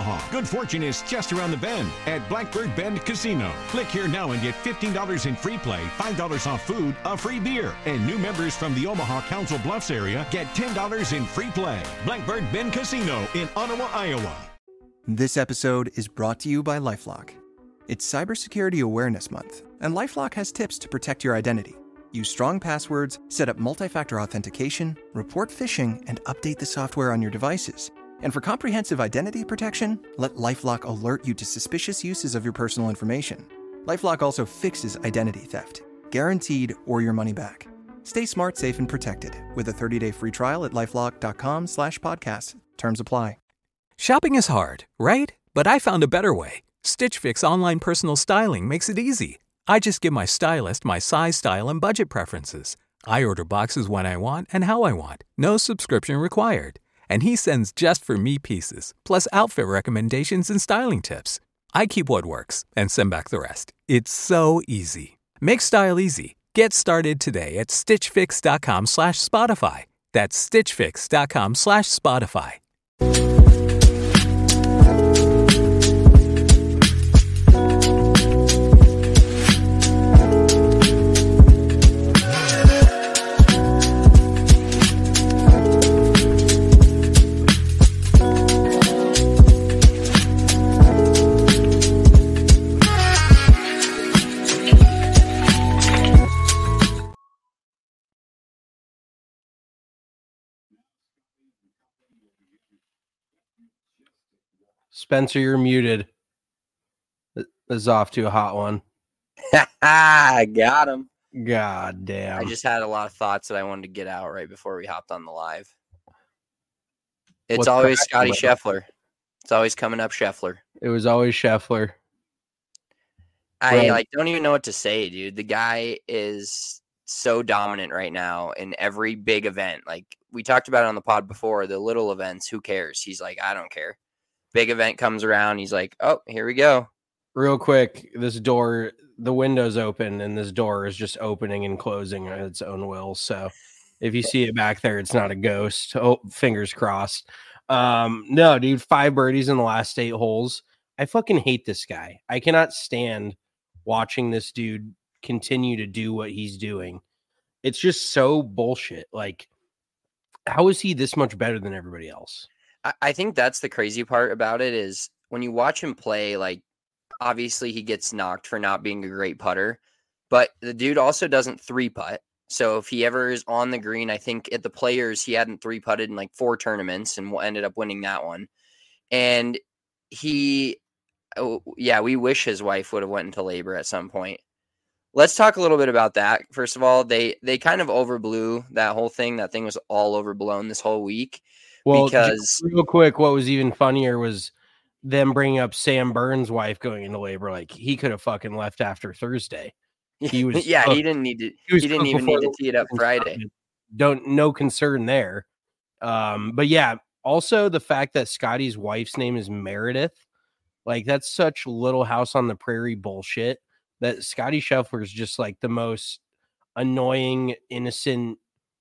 Omaha. Good fortune is just around the bend at Blackbird Bend Casino. Click here now and get $15 in free play, $5 off food, a free beer. And new members from the Omaha Council Bluffs area get $10 in free play. Blackbird Bend Casino in Ottawa, Iowa. This episode is brought to you by LifeLock. It's Cybersecurity Awareness Month, and LifeLock has tips to protect your identity. Use strong passwords, set up multi-factor authentication, report phishing, and update the software on your devices. And for comprehensive identity protection, let LifeLock alert you to suspicious uses of your personal information. LifeLock also fixes identity theft, guaranteed or your money back. Stay smart, safe, and protected with a 30-day free trial at LifeLock.com/podcast. Terms apply. Shopping is hard, right? But I found a better way. Stitch Fix online personal styling makes it easy. I just give my stylist my size, style, and budget preferences. I order boxes when I want and how I want. No subscription required. And he sends just for me pieces, plus outfit recommendations and styling tips. I keep what works and send back the rest. It's so easy. Make style easy. Get started today at stitchfix.com/Spotify. That's stitchfix.com/Spotify. Spencer, you're muted. This is off to a hot one. Got him. God damn. I just had a lot of thoughts that I wanted to get out right before we hopped on the live. It's What's always cracking, Scotty Scheffler. It's always coming up Scheffler. It was always Scheffler. I don't even know what to say, dude. The guy is so dominant right now in every big event. Like we talked about it on the pod before, the little events, who cares? He's like, I don't care. Big event comes around, he's like, oh, here we go. Real quick, this door, the window's open, and this door is just opening and closing at its own will. So if you see it back there, it's not a ghost. Oh, fingers crossed. No, dude, 5 birdies in the last 8 holes. I fucking hate this guy. I cannot stand watching this dude continue to do what he's doing. It's just so bullshit. Like, how is he this much better than everybody else? I think that's the crazy part about it is when you watch him play, like, obviously he gets knocked for not being a great putter, but the dude also doesn't 3-putt. So if he ever is on the green, I think at the Players, he hadn't 3-putted in like 4 tournaments and ended up winning that one. And we wish his wife would have went into labor at some point. Let's talk a little bit about that. First of all, they kind of overblew that whole thing. That thing was all overblown this whole week. Well, because real quick, what was even funnier was them bringing up Sam Burns' wife going into labor. Like, he could have fucking left after Thursday. He was he didn't need to. He didn't even need to tee it up Friday. No concern there. But yeah, also the fact that Scotty's wife's name is Meredith, like that's such Little House on the Prairie bullshit. That Scotty Scheffler is just like the most annoying, innocent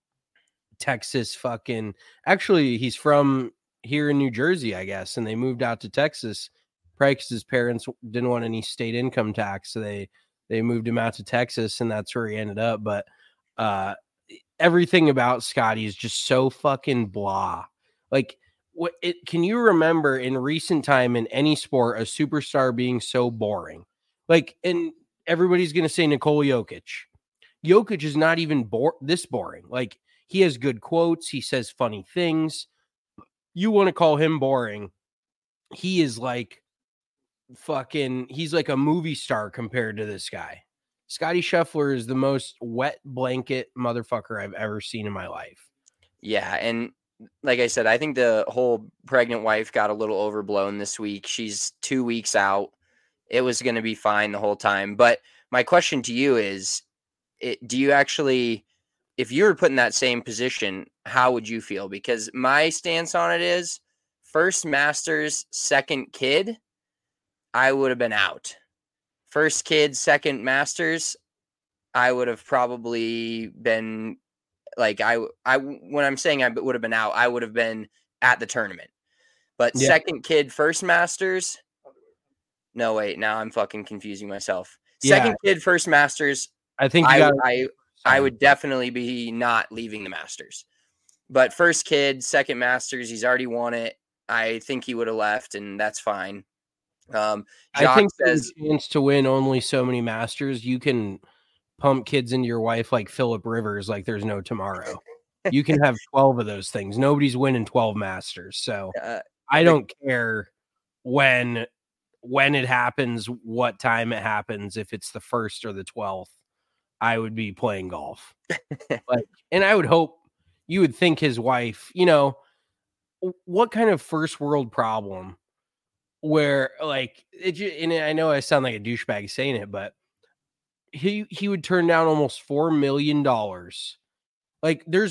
Texas fucking. Actually, he's from here in New Jersey, I guess, and they moved out to Texas probably because his parents didn't want any state income tax, so they moved him out to Texas, and that's where he ended up. But everything about Scotty is just so fucking blah. Like, can you remember in recent time in any sport a superstar being so boring? Like, and everybody's gonna say Nikola Jokic. Jokic is not even this boring. Like, he has good quotes. He says funny things. You want to call him boring? He is like fucking. He's like a movie star compared to this guy. Scotty Scheffler is the most wet blanket motherfucker I've ever seen in my life. Yeah, and like I said, I think the whole pregnant wife got a little overblown this week. She's 2 weeks out. It was going to be fine the whole time. But my question to you is, do you actually, if you were put in that same position, how would you feel? Because my stance on it is, first Masters, second kid, I would have been out. First kid, second Masters, I would have probably been like, when I'm saying I would have been out, I would have been at the tournament. But Yeah. second kid, first Masters. No, wait, now I'm fucking confusing myself. Yeah. Second kid, first Masters. I think you I would definitely be not leaving the Masters. But first kid, second Masters, he's already won it. I think he would have left, and that's fine. I think there's a chance to win only so many Masters. You can pump kids into your wife like Phillip Rivers, like there's no tomorrow. You can have 12 of those things. Nobody's winning 12 Masters. So I don't care when it happens, what time it happens, if it's the 1st or the 12th. I would be playing golf. And I would hope, you would think his wife, what kind of first world problem where and I know I sound like a douchebag saying it, but he would turn down almost $4 million. Like there's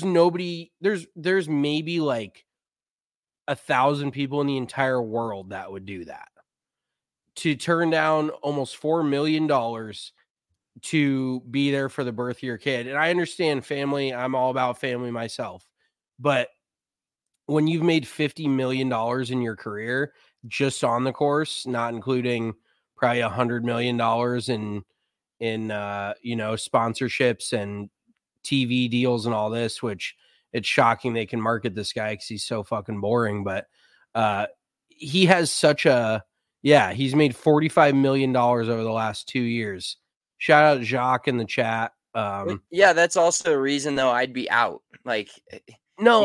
maybe like 1,000 people in the entire world that would do that. To turn down almost $4 million to be there for the birth of your kid. And I understand family. I'm all about family myself. But when you've made $50 million in your career just on the course, not including probably $100 million in sponsorships and TV deals and all this, which it's shocking they can market this guy because he's so fucking boring. But he has such he's made $45 million over the last 2 years. Shout out Jacques in the chat. Yeah, that's also a reason though I'd be out. Like, no,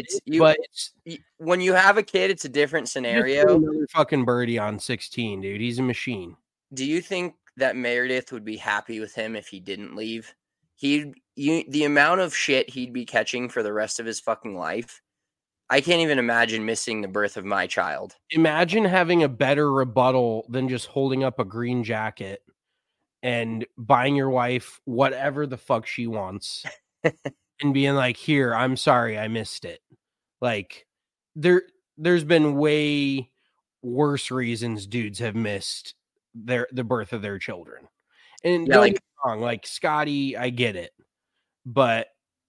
when you have a kid, it's a different scenario. Another fucking birdie on 16, dude. He's a machine. Do you think that Meredith would be happy with him if he didn't leave? The amount of shit he'd be catching for the rest of his fucking life. I can't even imagine missing the birth of my child. Imagine having a better rebuttal than just holding up a green jacket and buying your wife whatever the fuck she wants and being like, here, I'm sorry, I missed it. Like there's been way worse reasons dudes have missed the birth of their children. And don't get me wrong, like Scotty, I get it. But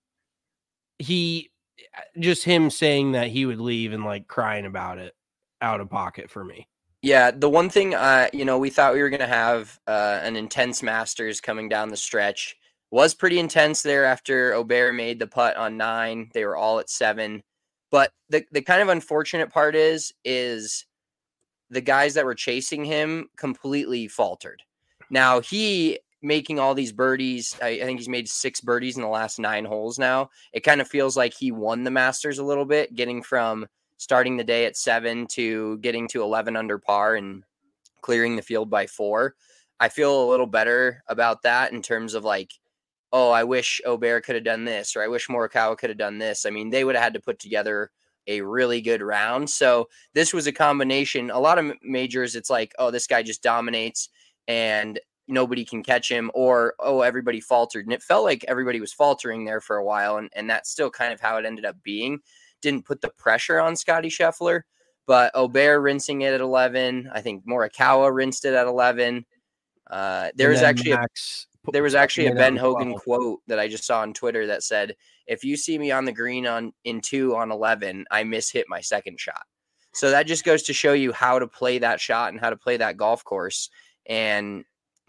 him saying that he would leave and like crying about it out of pocket for me. Yeah, the one thing, we thought we were going to have an intense Masters coming down the stretch. Was pretty intense there after Aubert made the putt on 9. They were all at 7. But the kind of unfortunate part is the guys that were chasing him completely faltered. Now, he making all these birdies, I think he's made 6 birdies in the last 9 holes now. It kind of feels like he won the Masters a little bit, getting from starting the day at 7 to getting to 11 under par and clearing the field by 4. I feel a little better about that in terms of like, oh, I wish Aubert could have done this, or I wish Morikawa could have done this. I mean, they would have had to put together a really good round. So this was a combination. A lot of majors, it's like, oh, this guy just dominates and nobody can catch him, or, oh, everybody faltered. And it felt like everybody was faltering there for a while. And that's still kind of how it ended up being. Didn't put the pressure on Scotty Scheffler, but Aubert rinsing it at 11. I think Morikawa rinsed it at 11. There was actually a Ben Hogan quote that I just saw on Twitter that said, if you see me on the green in 2 on 11, I mishit my second shot. So that just goes to show you how to play that shot and how to play that golf course. And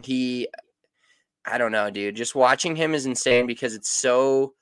I don't know, dude, just watching him is insane because it's so,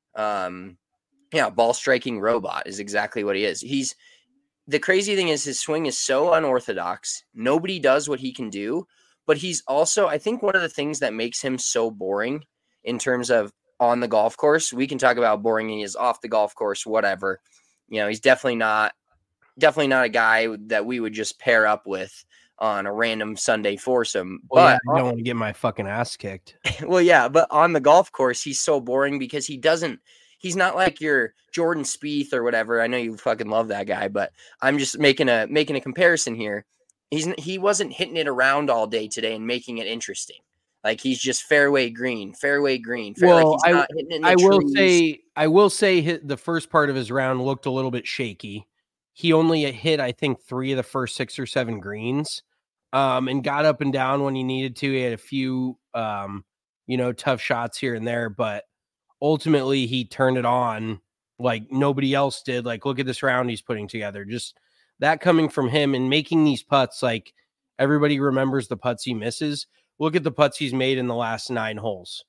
ball striking robot is exactly what he is. The crazy thing is his swing is so unorthodox. Nobody does what he can do, but he's also, I think one of the things that makes him so boring in terms of on the golf course, we can talk about how boring he is off the golf course, whatever. He's definitely not a guy that we would just pair up with on a random Sunday foursome. Well, but I don't want to get my fucking ass kicked. Well, yeah, but on the golf course, he's so boring because he's not like your Jordan Spieth or whatever. I know you fucking love that guy, but I'm just making a comparison here. He wasn't hitting it around all day today and making it interesting. Like he's just fairway green. Well, I will say the first part of his round looked a little bit shaky. He only hit, I think, 3 of the first 6 or 7 greens, and got up and down when he needed to. He had a few, tough shots here and there, but ultimately he turned it on like nobody else did. Like, look at this round he's putting together. Just that coming from him and making these putts, like everybody remembers the putts he misses. Look at the putts he's made in the last 9 holes.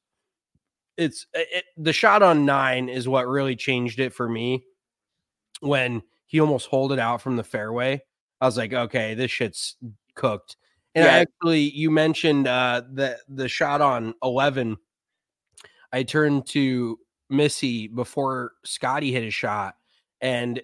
The shot on 9 is what really changed it for me. When he almost holed it out from the fairway, I was like, okay, this shit's cooked. And you mentioned the shot on 11. I turned to Missy before Scotty hit his shot, and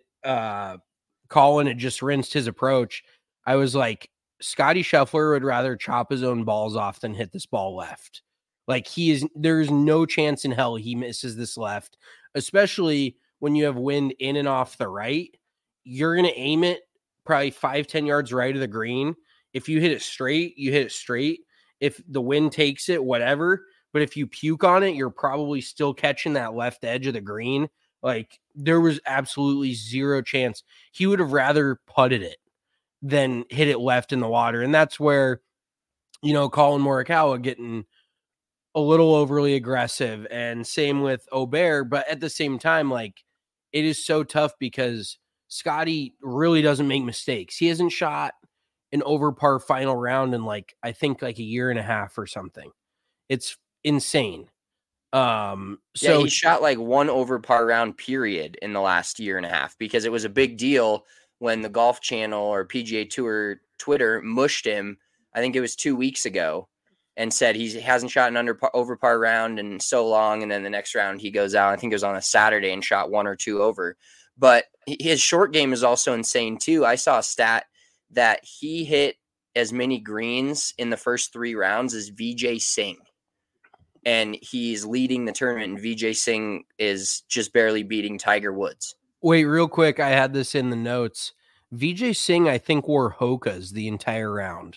Colin had just rinsed his approach. I was like, Scotty Scheffler would rather chop his own balls off than hit this ball left. Like there's no chance in hell he misses this left, especially when you have wind in and off the right. You're going to aim it probably 5-10 yards right of the green. If you hit it straight, you hit it straight. If the wind takes it, whatever. But if you puke on it, you're probably still catching that left edge of the green. Like, there was absolutely zero chance. He would have rather putted it than hit it left in the water. And that's where, Colin Morikawa getting a little overly aggressive, and same with Aubert. But at the same time, like, it is so tough because Scotty really doesn't make mistakes. He hasn't shot an over par final round in I think a year and a half or something. It's insane. So he shot one over par round period in the last year and a half, because it was a big deal when the Golf Channel or PGA Tour Twitter mushed him. I think it was 2 weeks ago, and said he hasn't shot an over par round in so long. And then the next round he goes out, I think it was on a Saturday, and shot 1 or 2 over. But his short game is also insane too. I saw a stat that he hit as many greens in the first 3 rounds as Vijay Singh. And he's leading the tournament, and Vijay Singh is just barely beating Tiger Woods. Wait, real quick. I had this in the notes. Vijay Singh, I think, wore Hoka's the entire round.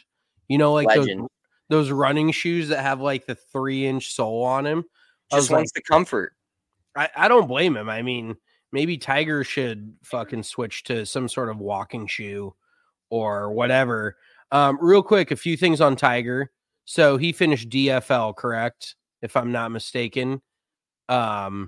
Those running shoes that have the 3-inch sole on him. Just wants the comfort. I don't blame him. I mean, maybe Tiger should fucking switch to some sort of walking shoe or whatever. Real quick, a few things on Tiger. So he finished DFL, correct? If I'm not mistaken. DFL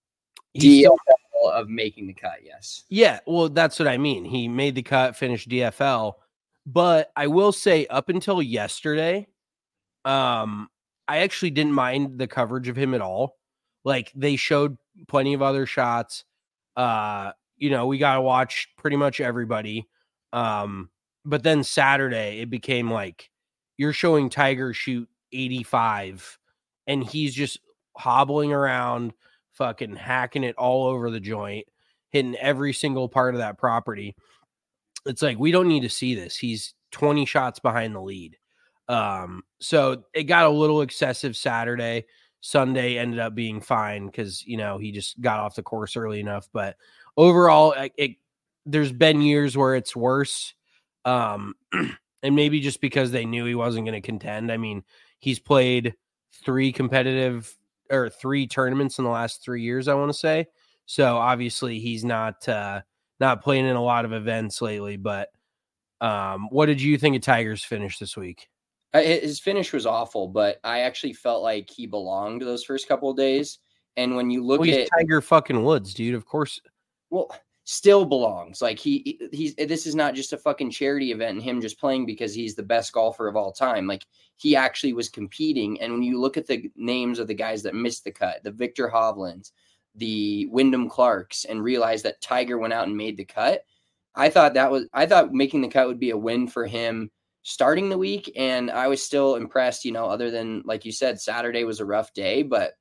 of making the cut, yes. Yeah, well, that's what I mean. He made the cut, finished DFL. But I will say, up until yesterday, I actually didn't mind the coverage of him at all. They showed plenty of other shots. We got to watch pretty much everybody. But then Saturday, it became you're showing Tiger shoot 85, and he's just hobbling around, fucking hacking it all over the joint, hitting every single part of that property. It's we don't need to see this. He's 20 shots behind the lead. So it got a little excessive Saturday. Sunday ended up being fine because, he just got off the course early enough. But overall, there's been years where it's worse. And maybe just because they knew he wasn't going to contend. I mean, he's played 3 tournaments in the last 3 years, I want to say. So obviously he's not playing in a lot of events lately. But what did you think of Tiger's finish this week? His finish was awful, but I actually felt like he belonged those first couple of days. And when you look at Tiger fucking Woods, dude, of course. Well, still belongs. This is not just a fucking charity event and him just playing because he's the best golfer of all time. He actually was competing. And when you look at the names of the guys that missed the cut, the Victor Hovlands, the Wyndham Clarks, and realize that Tiger went out and made the cut, I thought making the cut would be a win for him starting the week. And I was still impressed, other than, like you said, Saturday was a rough day, but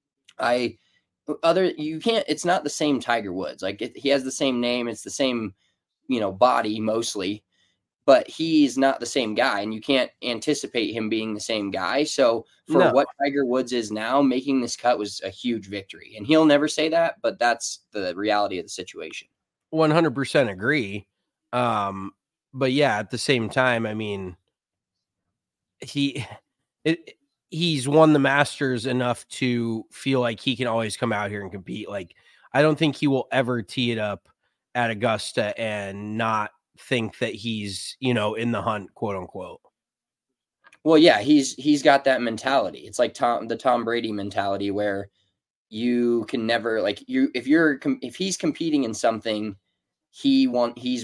it's not the same Tiger Woods. He has the same name. It's the same, body mostly, but he's not the same guy, and you can't anticipate him being the same guy. So for what Tiger Woods is now, making this cut was a huge victory, and he'll never say that, but that's the reality of the situation. 100% agree. But yeah, at the same time, I mean, he's won the Masters enough to feel like he can always come out here and compete. I don't think he will ever tee it up at Augusta and not think that he's, in the hunt, quote unquote. Well, yeah, he's got that mentality. It's like the Tom Brady mentality where you can never if he's competing in something, he's winning.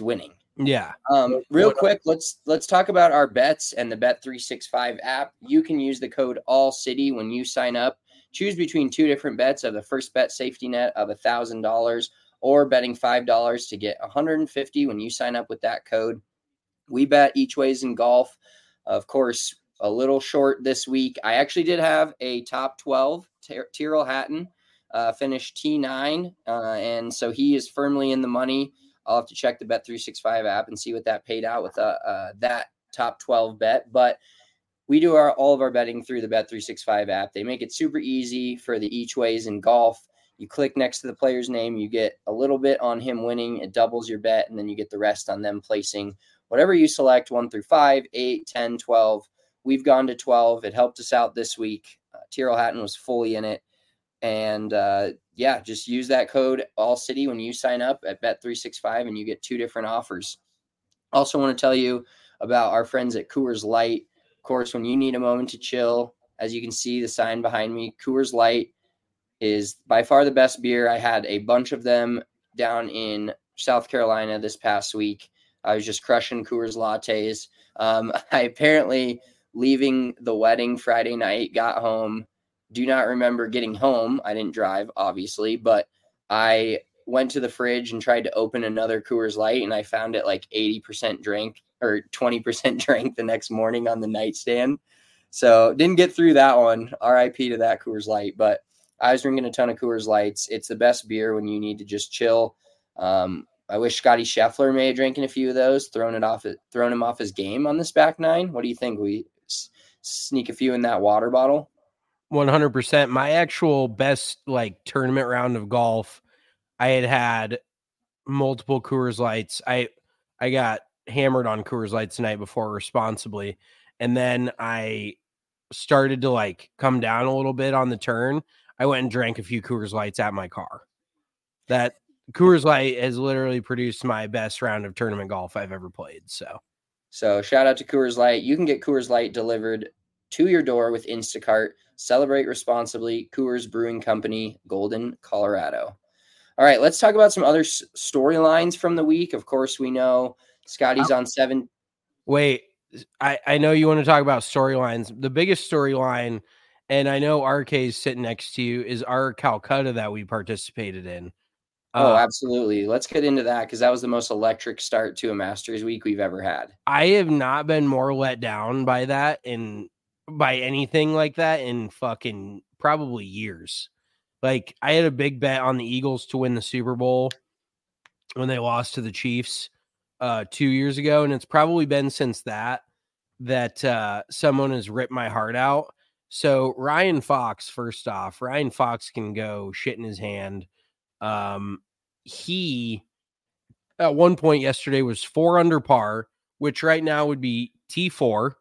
Yeah. Real quick, let's talk about our bets and the Bet365 app. You can use the code ALLCITY when you sign up. Choose between two different bets of the first bet safety net of $1,000 or betting $5 to get $150 when you sign up with that code. We bet each ways in golf. Of course, a little short this week. I actually did have a top 12. Tyrrell Hatton finished T9, and so he is firmly in the money. I'll have to check the Bet365 app and see what that paid out with that top 12 bet. But we do all of our betting through the Bet365 app. They make it super easy for the each ways in golf. You click next to the player's name, you get a little bit on him winning. It doubles your bet, and then you get the rest on them placing whatever you select, 1 through 5, 8, 10, 12. We've gone to 12. It helped us out this week. Tyrrell Hatton was fully in it. And just use that code ALLCITY when you sign up at Bet365 and you get two different offers. Also want to tell you about our friends at Coors Light. Of course, when you need a moment to chill, as you can see the sign behind me, Coors Light is by far the best beer. I had a bunch of them down in South Carolina this past week. I was just crushing Coors lattes. I apparently, leaving the wedding Friday night, got home. Do not remember getting home. I didn't drive, obviously, but I went to the fridge and tried to open another Coors Light, and I found it like 80% drank or 20% drank the next morning on the nightstand. So didn't get through that one. RIP to that Coors Light, but I was drinking a ton of Coors Lights. It's the best beer when you need to just chill. I wish Scotty Scheffler may have drinking a few of those, thrown him off his game on this back nine. What do you think? We sneak a few in that water bottle? 100%. My actual best tournament round of golf, I had multiple Coors Lights. I got hammered on Coors Lights the night before responsibly, and then I started to come down a little bit on the turn. I went and drank a few Coors Lights at my car. That Coors Light has literally produced my best round of tournament golf I've ever played. So shout out to Coors Light. You can get Coors Light delivered to your door with Instacart. Celebrate responsibly. Coors Brewing Company, Golden, Colorado. All right, let's talk about some other storylines from the week. Of course, we know Scotty's on 7. Wait, I know you want to talk about storylines. The biggest storyline, and I know RK is sitting next to you, is our Calcutta that we participated in. Oh, absolutely. Let's get into that because that was the most electric start to a Masters week we've ever had. I have not been more let down by that by anything like that in fucking probably years. I had a big bet on the Eagles to win the Super Bowl when they lost to the Chiefs 2 years ago, and it's probably been since that someone has ripped my heart out. So Ryan Fox, first off, Ryan Fox can go shit in his hand. He at one point yesterday was 4 under par, which right now would be T4.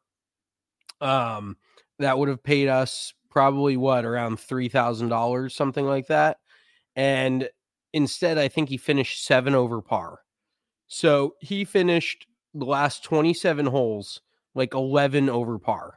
That would have paid us probably around $3,000, something like that. And instead, I think he finished 7 over par. So he finished the last 27 holes 11 over par.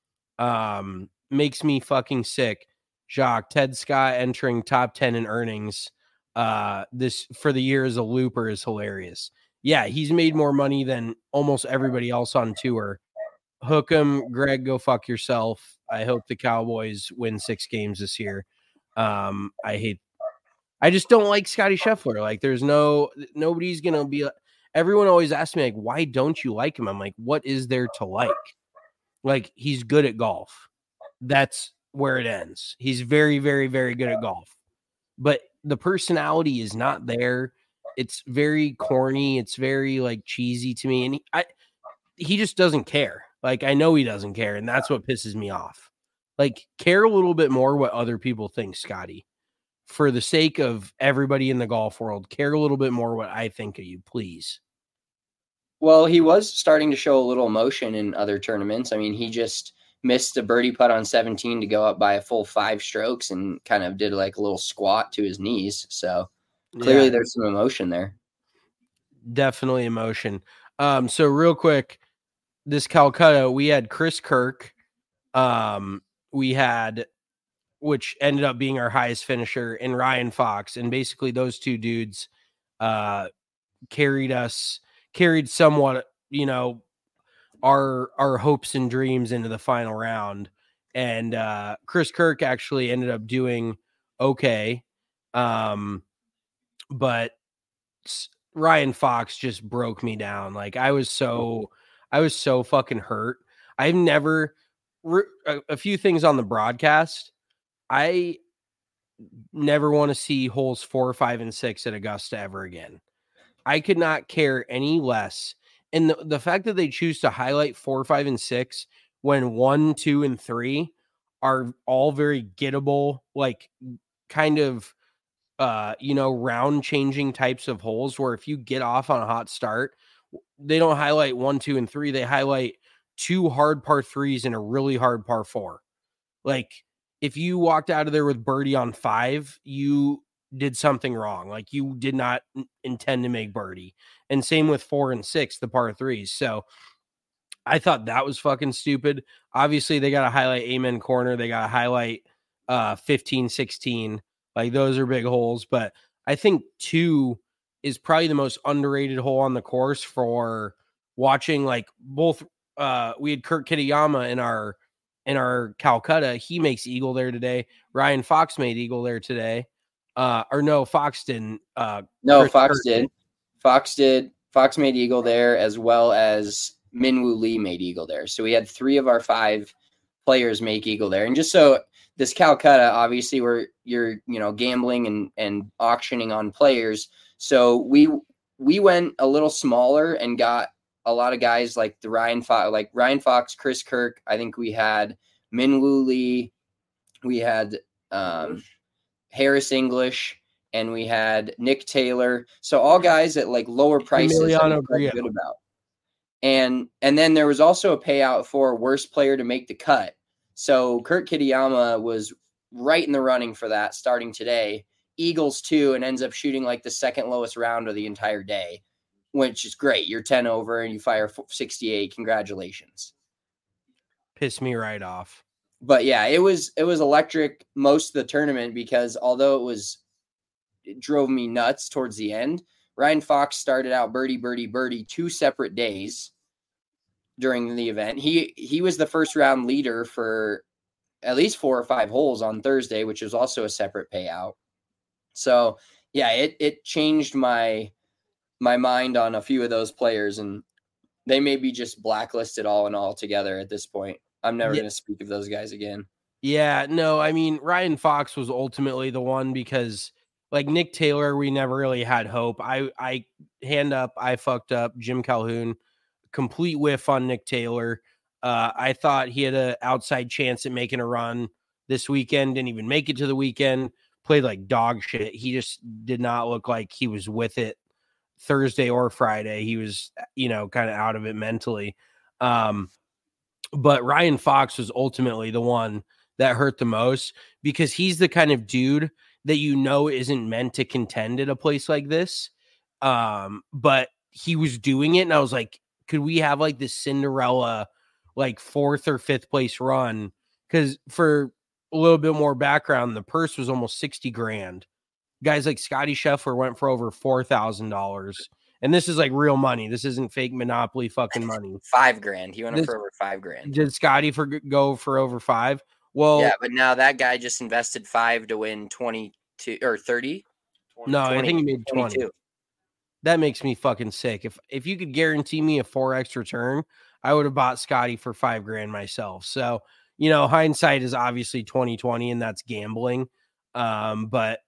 Makes me fucking sick. Jacques, Ted Scott entering top 10 in earnings this for the year as a looper is hilarious. Yeah, he's made more money than almost everybody else on tour. Hook him, Greg, go fuck yourself. I hope the Cowboys win 6 games this year. I just don't like Scotty Scheffler. There's nobody's going to be, everyone always asks me, why don't you like him? I'm like, what is there to like? He's good at golf. That's where it ends. He's very, very, very good at golf. But the personality is not there. It's very corny. It's very cheesy to me. And he just doesn't care. I know he doesn't care. And that's what pisses me off. Care a little bit more what other people think, Scotty. For the sake of everybody in the golf world, care a little bit more what I think of you, please. Well, he was starting to show a little emotion in other tournaments. I mean, he just missed a birdie putt on 17 to go up by a full 5 strokes and kind of did a little squat to his knees. So clearly there's some emotion there. Definitely emotion. So real quick, this Calcutta, we had Chris Kirk. We had, which ended up being our highest finisher, and Ryan Fox. And basically those two dudes carried us carried somewhat, you know, our hopes and dreams into the final round. And Chris Kirk actually ended up doing okay. But Ryan Fox just broke me down. Like I was so fucking hurt. I've never a few things on the broadcast. I never want to see holes 4, 5, and 6 at Augusta ever again. I could not care any less. And the fact that they choose to highlight 4, 5, and 6 when 1, 2, and 3 are all very gettable, like kind of round changing types of holes where if you get off on a hot start, they don't highlight 1, 2, and 3. They highlight 2 hard par 3s and a really hard par 4. Like if you walked out of there with birdie on 5, you did something wrong. Like you did not intend to make birdie. And same with 4 and 6, the par 3s. So I thought that was fucking stupid. Obviously they got to highlight Amen Corner. They got to highlight 15, 16. Like those are big holes, but I think 2 is probably the most underrated hole on the course for watching. Like both, we had Kurt Kitayama in our Calcutta. He makes eagle there today. Ryan Fox made eagle there today. Or no, Fox didn't. No, Fox did. Fox did. Fox made eagle there as well as Minwoo Lee made eagle there. So we had 3 of our 5 players make eagle there. And just so this Calcutta, obviously where you're, gambling and auctioning on players. So we went a little smaller and got a lot of guys like Ryan Fox, Chris Kirk. I think we had Minwoo Lee, we had Harris English, and we had Nick Taylor. So all guys at like lower prices that I felt good about. And then there was also a payout for worst player to make the cut. So Kurt Kitayama was right in the running for that starting today. Eagles 2 and ends up shooting like the second lowest round of the entire day, which is great. You're 10 over and you fire 68. Congratulations. Pissed me right off. But yeah, it was electric most of the tournament because although it drove me nuts towards the end, Ryan Fox started out birdie 2 separate days during the event. He was the first round leader for at least 4 or 5 holes on Thursday, which was also a separate payout. So yeah, it changed my mind on a few of those players, and they may be just blacklisted all in all together at this point. I'm never going to speak of those guys again. Yeah, no, I mean, Ryan Fox was ultimately the one because like Nick Taylor, we never really had hope. I fucked up. Jim Calhoun, complete whiff on Nick Taylor. I thought he had an outside chance at making a run this weekend. Didn't even make it to the weekend. Played like dog shit. He just did not look like he was with it Thursday or Friday. He was, kind of out of it mentally. But Ryan Fox was ultimately the one that hurt the most because he's the kind of dude that isn't meant to contend at a place like this. But he was doing it, and I was like, could we have like this Cinderella like 4th or 5th place run? Because for a little bit more background, the purse was almost $60,000. Guys like Scotty Scheffler went for over $4,000. And this is like real money. This isn't fake Monopoly fucking money. $5,000. He went for over $5,000. Did Scotty go for over 5? Well, yeah, but now that guy just invested 5 to win 22 or 30. No, 20, I think he made 20. 22. That makes me fucking sick. If you could guarantee me a 4x return, I would have bought Scotty for $5,000 myself. So, hindsight is obviously 20/20, and that's gambling. But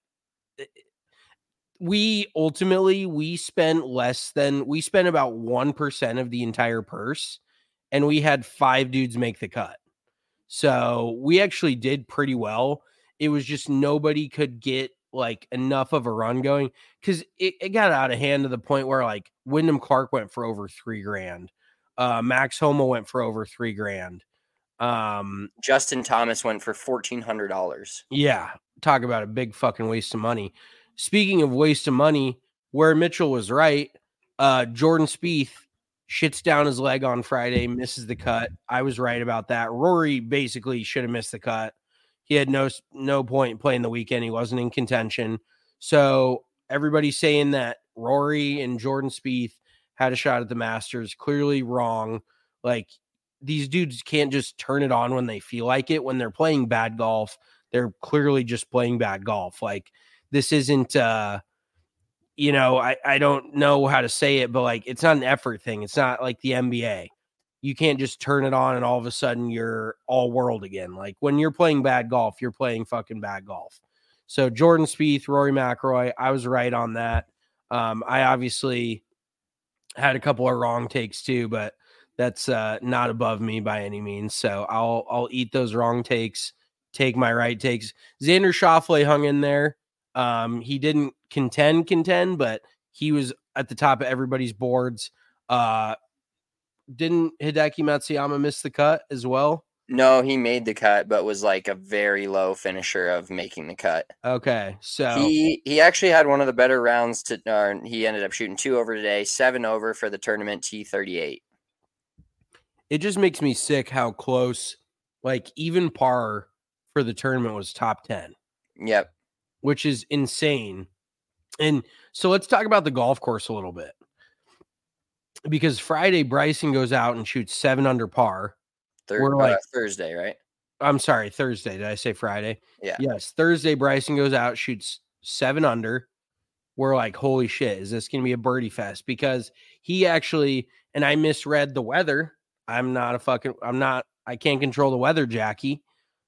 we spent about 1% of the entire purse, and we had 5 dudes make the cut. So we actually did pretty well. It was just nobody could get like enough of a run going because it got out of hand to the point where like Wyndham Clark went for over $3,000. Max Homa went for over $3,000. Justin Thomas went for $1,400. Yeah. Talk about a big fucking waste of money. Speaking of waste of money, where Mitchell was right, Jordan Spieth shits down his leg on Friday, misses the cut. I was right about that. Rory basically should have missed the cut. He had no point playing the weekend. He wasn't in contention. So everybody's saying that Rory and Jordan Spieth had a shot at the Masters. Clearly wrong. Like, these dudes can't just turn it on when they feel like it. When they're playing bad golf, they're clearly just playing bad golf. Like, this isn't, I don't know how to say it, but like, it's not an effort thing. It's not like the NBA. You can't just turn it on and all of a sudden you're all world again. Like, when you're playing bad golf, you're playing fucking bad golf. So Jordan Spieth, Rory McIlroy, I was right on that. I obviously had a couple of wrong takes too, but that's not above me by any means. So I'll eat those wrong takes, take my right takes. Xander Schauffele hung in there. He didn't contend, but he was at the top of everybody's boards. Didn't Hideki Matsuyama miss the cut as well? No, he made the cut, but was like a very low finisher of making the cut. Okay, so he actually had one of the better rounds. He ended up shooting 2 over today, 7 over for the tournament T38. It just makes me sick how close, like, even par for the tournament was top 10. Yep, which is insane. And so let's talk about the golf course a little bit, because Friday Bryson goes out and shoots 7 under par. Thursday, right? I'm sorry, Thursday. Did I say Friday? Yeah. Yes, Thursday Bryson goes out, shoots 7 under. We're like, holy shit, is this going to be a birdie fest? Because he actually, and I misread the weather. I can't control the weather, Jackie.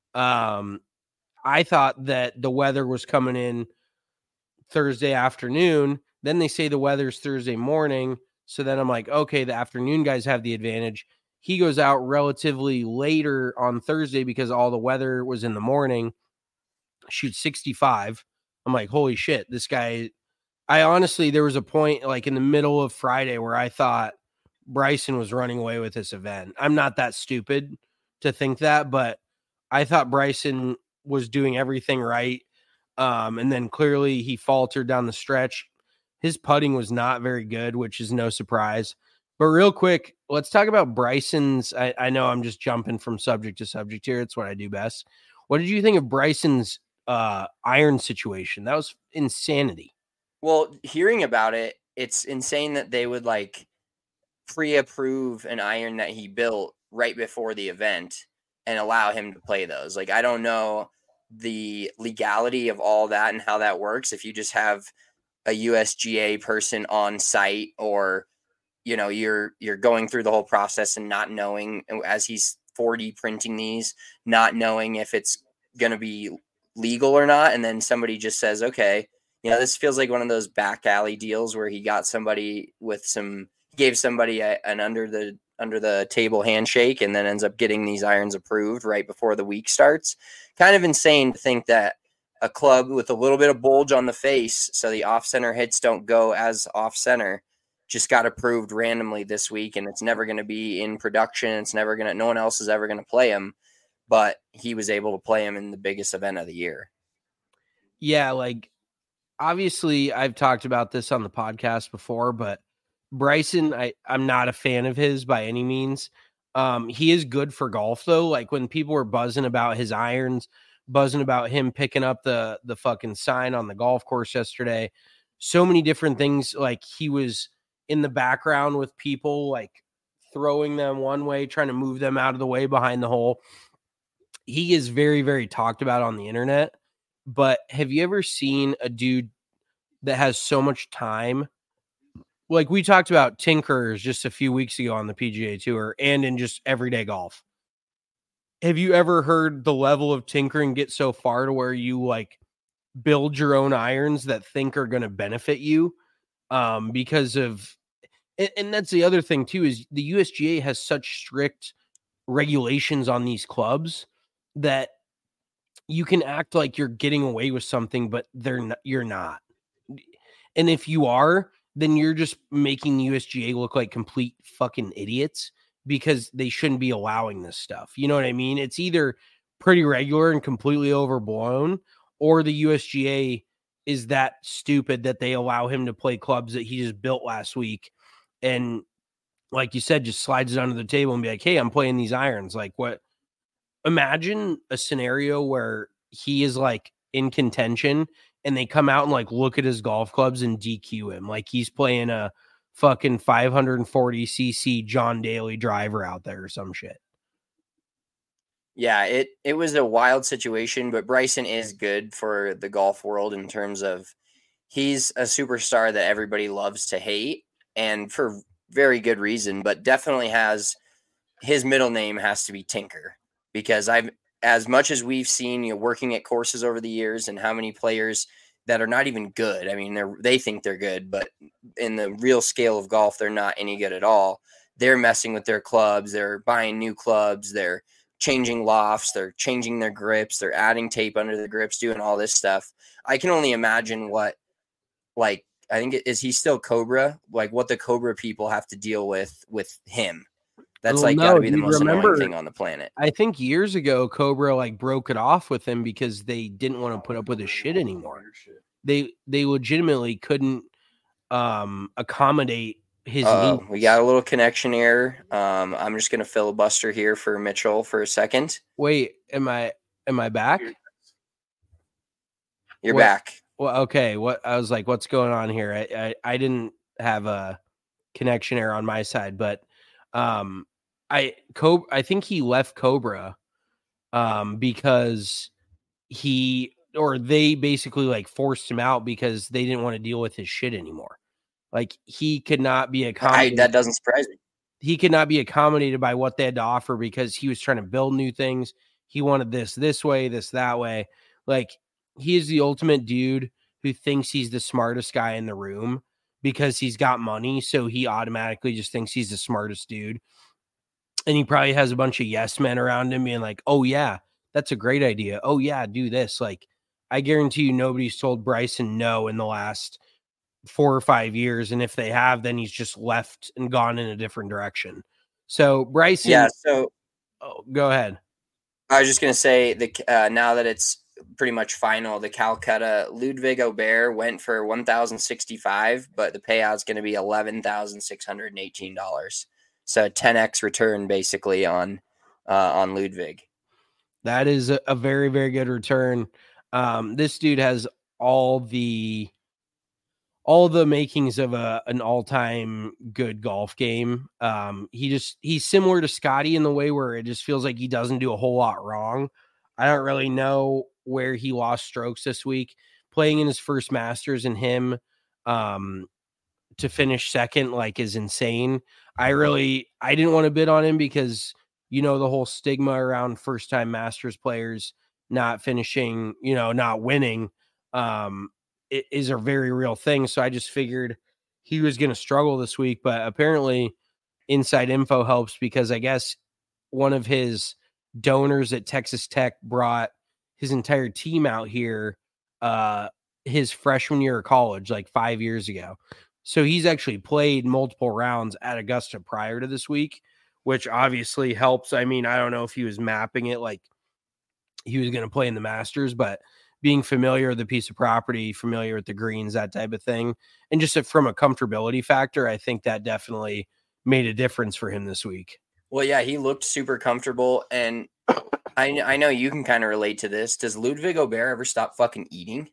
I thought that the weather was coming in Thursday afternoon. Then they say the weather's Thursday morning. So then I'm like, okay, the afternoon guys have the advantage. He goes out relatively later on Thursday because all the weather was in the morning. Shoots 65. I'm like, holy shit, this guy. I honestly, there was a point like in the middle of Friday where I thought Bryson was running away with this event. I'm not that stupid to think that, but I thought Bryson was doing everything right. And then clearly he faltered down the stretch. His putting was not very good, which is no surprise. But real quick, let's talk about Bryson's. I know I'm just jumping from subject to subject here. It's what I do best. What did you think of Bryson's iron situation? That was insanity. Well, hearing about it, it's insane that they would like pre-approve an iron that he built right before the event and allow him to play those. Like, I don't know the legality of all that and how that works. If you just have a USGA person on site, or, you know, you're going through the whole process and not knowing, as he's 4D printing these, not knowing if it's going to be legal or not. And then somebody just says, okay, you know, this feels like one of those back alley deals where he got somebody gave somebody an under the table handshake and then ends up getting these irons approved right before the week starts. Kind of insane to think that a club with a little bit of bulge on the face, so the off-center hits don't go as off-center, just got approved randomly this week, and it's never going to be in production. No one else is ever going to play him, but he was able to play him in the biggest event of the year. Yeah, like, obviously I've talked about this on the podcast before, but Bryson, I'm not a fan of his by any means. He is good for golf though. Like, when people were buzzing about his irons, buzzing about him picking up the fucking sign on the golf course yesterday, so many different things. Like, he was in the background with people, like throwing them one way, trying to move them out of the way behind the hole. He is very, very talked about on the internet. But have you ever seen a dude that has so much time? Like, we talked about tinkerers just a few weeks ago on the PGA Tour and in just everyday golf. Have you ever heard the level of tinkering get so far to where you like build your own irons that think are going to benefit you? Because of, and that's the other thing too, is the USGA has such strict regulations on these clubs that you can act like you're getting away with something, but you're not. And if you are, then you're just making the USGA look like complete fucking idiots, because they shouldn't be allowing this stuff. You know what I mean? It's either pretty regular and completely overblown, or the USGA is that stupid that they allow him to play clubs that he just built last week. And like you said, just slides it under the table and be like, hey, I'm playing these irons. Like, what? Imagine a scenario where he is like in contention and they come out and like look at his golf clubs and DQ him. Like, he's playing a fucking 540cc John Daly driver out there or some shit. Yeah, it was a wild situation, but Bryson is good for the golf world in terms of he's a superstar that everybody loves to hate, and for very good reason, but definitely has his middle name has to be Tinker, because as much as we've seen, working at courses over the years and how many players that are not even good. I mean, they think they're good, but in the real scale of golf, they're not any good at all. They're messing with their clubs. They're buying new clubs. They're changing lofts. They're changing their grips. They're adding tape under the grips, doing all this stuff. I can only imagine what, like, I think is he still Cobra? Like what the Cobra people have to deal with him. That's got to be the most annoying thing on the planet. I think years ago, Cobra like broke it off with him because they didn't want to put up with his shit anymore. They legitimately couldn't accommodate his needs. We got a little connection error. I'm just gonna filibuster here for Mitchell for a second. Wait, am I back? You're back. Well, okay. I was like, what's going on here? I didn't have a connection error on my side, but I think he left Cobra because they basically like forced him out because they didn't want to deal with his shit anymore. Like he could not be accommodated. That doesn't surprise me. He could not be accommodated by what they had to offer because he was trying to build new things. He wanted this way, this that way. Like he is the ultimate dude who thinks he's the smartest guy in the room because he's got money. So he automatically just thinks he's the smartest dude. And he probably has a bunch of yes men around him being like, oh yeah, that's a great idea. Oh yeah, do this. Like I guarantee you nobody's told Bryson no in the last 4 or 5 years. And if they have, then he's just left and gone in a different direction. So Bryson. Yeah. So go ahead. I was just going to say now that it's pretty much final, the Calcutta Ludwig Aubert went for $1,065, but the payout's going to be $11,618. So 10x return basically on Ludwig. That is a very, very good return. This dude has all the makings of an all-time good golf game. He's similar to Scotty in the way where it just feels like he doesn't do a whole lot wrong. I don't really know where he lost strokes this week. Playing in his first Masters and him to finish second like is insane. I didn't want to bid on him because the whole stigma around first-time Masters players not finishing, not winning. It is a very real thing. So I just figured he was going to struggle this week, but apparently inside info helps because I guess one of his donors at Texas Tech brought his entire team out here his freshman year of college, like 5 years ago. So he's actually played multiple rounds at Augusta prior to this week, which obviously helps. I mean, I don't know if he was mapping it like he was going to play in the Masters, but being familiar with the piece of property, familiar with the greens, that type of thing. And just from a comfortability factor, I think that definitely made a difference for him this week. Well, yeah, he looked super comfortable. And I know you can kind of relate to this. Does Ludwig Aubert ever stop fucking eating?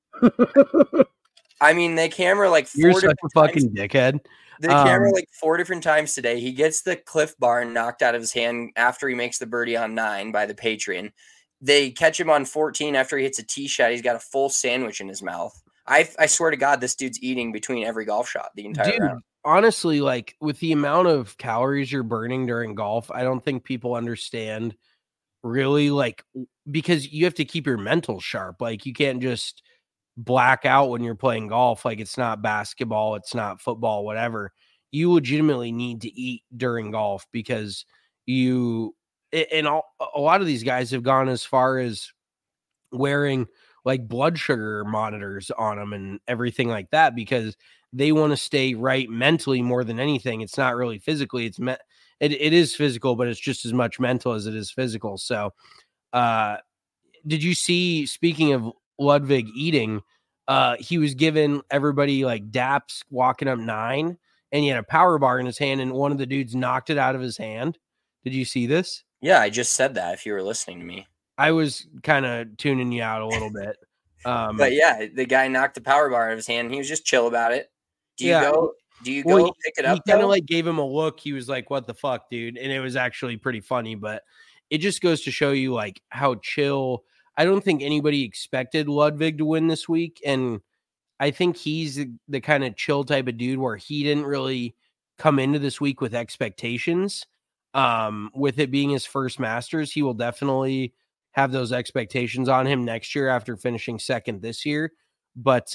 I mean, they camera like 4 You're different such a fucking dickhead. They camera like 4 different times today. He gets the Cliff Bar knocked out of his hand after he makes the birdie on 9 by the Patreon. They catch him on 14 after he hits a tee shot. He's got a full sandwich in his mouth. I swear to God, this dude's eating between every golf shot the entire round. Honestly, like with the amount of calories you're burning during golf, I don't think people understand really, like, because you have to keep your mental sharp. Like you can't just black out when you're playing golf. Like it's not basketball, it's not football, whatever. You legitimately need to eat during golf because a lot of these guys have gone as far as wearing like blood sugar monitors on them and everything like that because they want to stay right mentally more than anything. It's not really physically. It is physical, but it's just as much mental as it is physical. So, did you see, speaking of Ludwig eating, he was giving everybody like daps walking up 9 and he had a power bar in his hand and one of the dudes knocked it out of his hand. Did you see this? Yeah, I just said that if you were listening to me. I was kind of tuning you out a little bit. But yeah, the guy knocked the power bar out of his hand and he was just chill about it. Do you go Do you go pick it up? He kind of like gave him a look. He was like, "What the fuck, dude?" And it was actually pretty funny, but it just goes to show you like how chill. I don't think anybody expected Ludwig to win this week, and I think he's the kind of chill type of dude where he didn't really come into this week with expectations. With it being his first Masters, he will definitely have those expectations on him next year after finishing second this year. But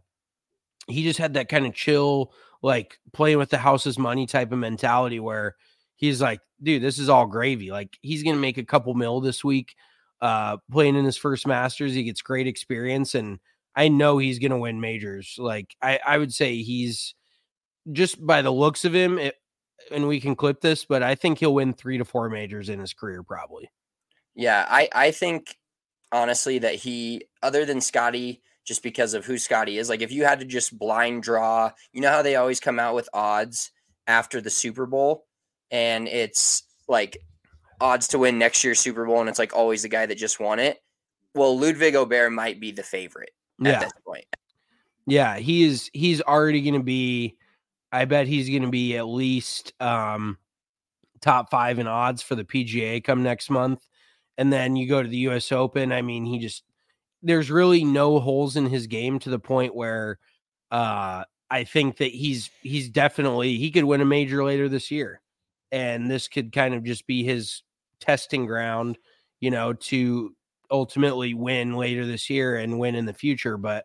he just had that kind of chill, like playing with the house's money type of mentality where he's like, dude, this is all gravy. Like he's going to make a couple mil this week playing in his first Masters. He gets great experience, and I know he's going to win majors. Like I would say he's just by the looks of him, and we can clip this, but I think he'll win 3 to 4 majors in his career probably. Yeah, I think honestly that he, other than Scotty, just because of who Scotty is, like if you had to just blind draw, you know how they always come out with odds after the Super Bowl, and it's like odds to win next year's Super Bowl, and it's like always the guy that just won it. Well, Ludwig Aubert might be the favorite at this point. Yeah, he's already going to be, I bet he's going to be at least top 5 in odds for the PGA come next month. And then you go to the US Open. I mean, there's really no holes in his game to the point where I think that he's definitely, he could win a major later this year. And this could kind of just be his testing ground, to ultimately win later this year and win in the future. But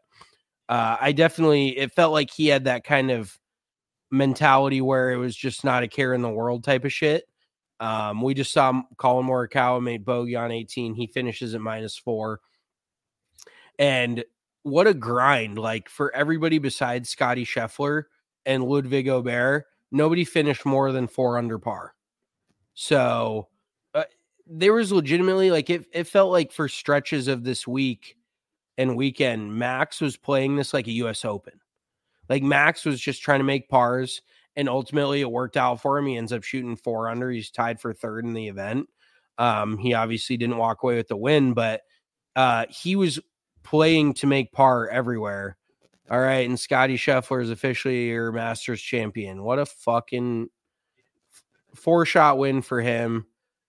it felt like he had that kind of mentality where it was just not a care in the world type of shit. We just saw Colin Morikawa made bogey on 18. He finishes at -4. And what a grind. Like for everybody besides Scotty Scheffler and Ludwig Aubert, nobody finished more than 4 under par. So there was legitimately like, it felt like for stretches of this week and weekend, Max was playing this like a US Open. Like Max was just trying to make pars, and ultimately it worked out for him. He ends up shooting 4 under. He's tied for 3rd in the event. He obviously didn't walk away with the win, but he was playing to make par everywhere. All right, and Scotty Scheffler is officially your Masters champion. What a fucking 4-shot win for him.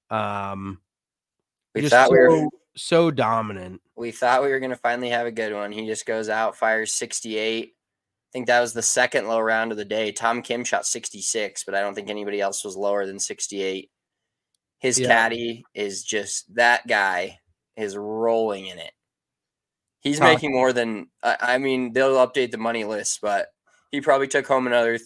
So dominant. We thought we were going to finally have a good one. He just goes out, fires 68. I think that was the second low round of the day. Tom Kim shot 66, but I don't think anybody else was lower than 68. His caddy is just, that guy is rolling in it. He's making more than, they'll update the money list, but he probably took home another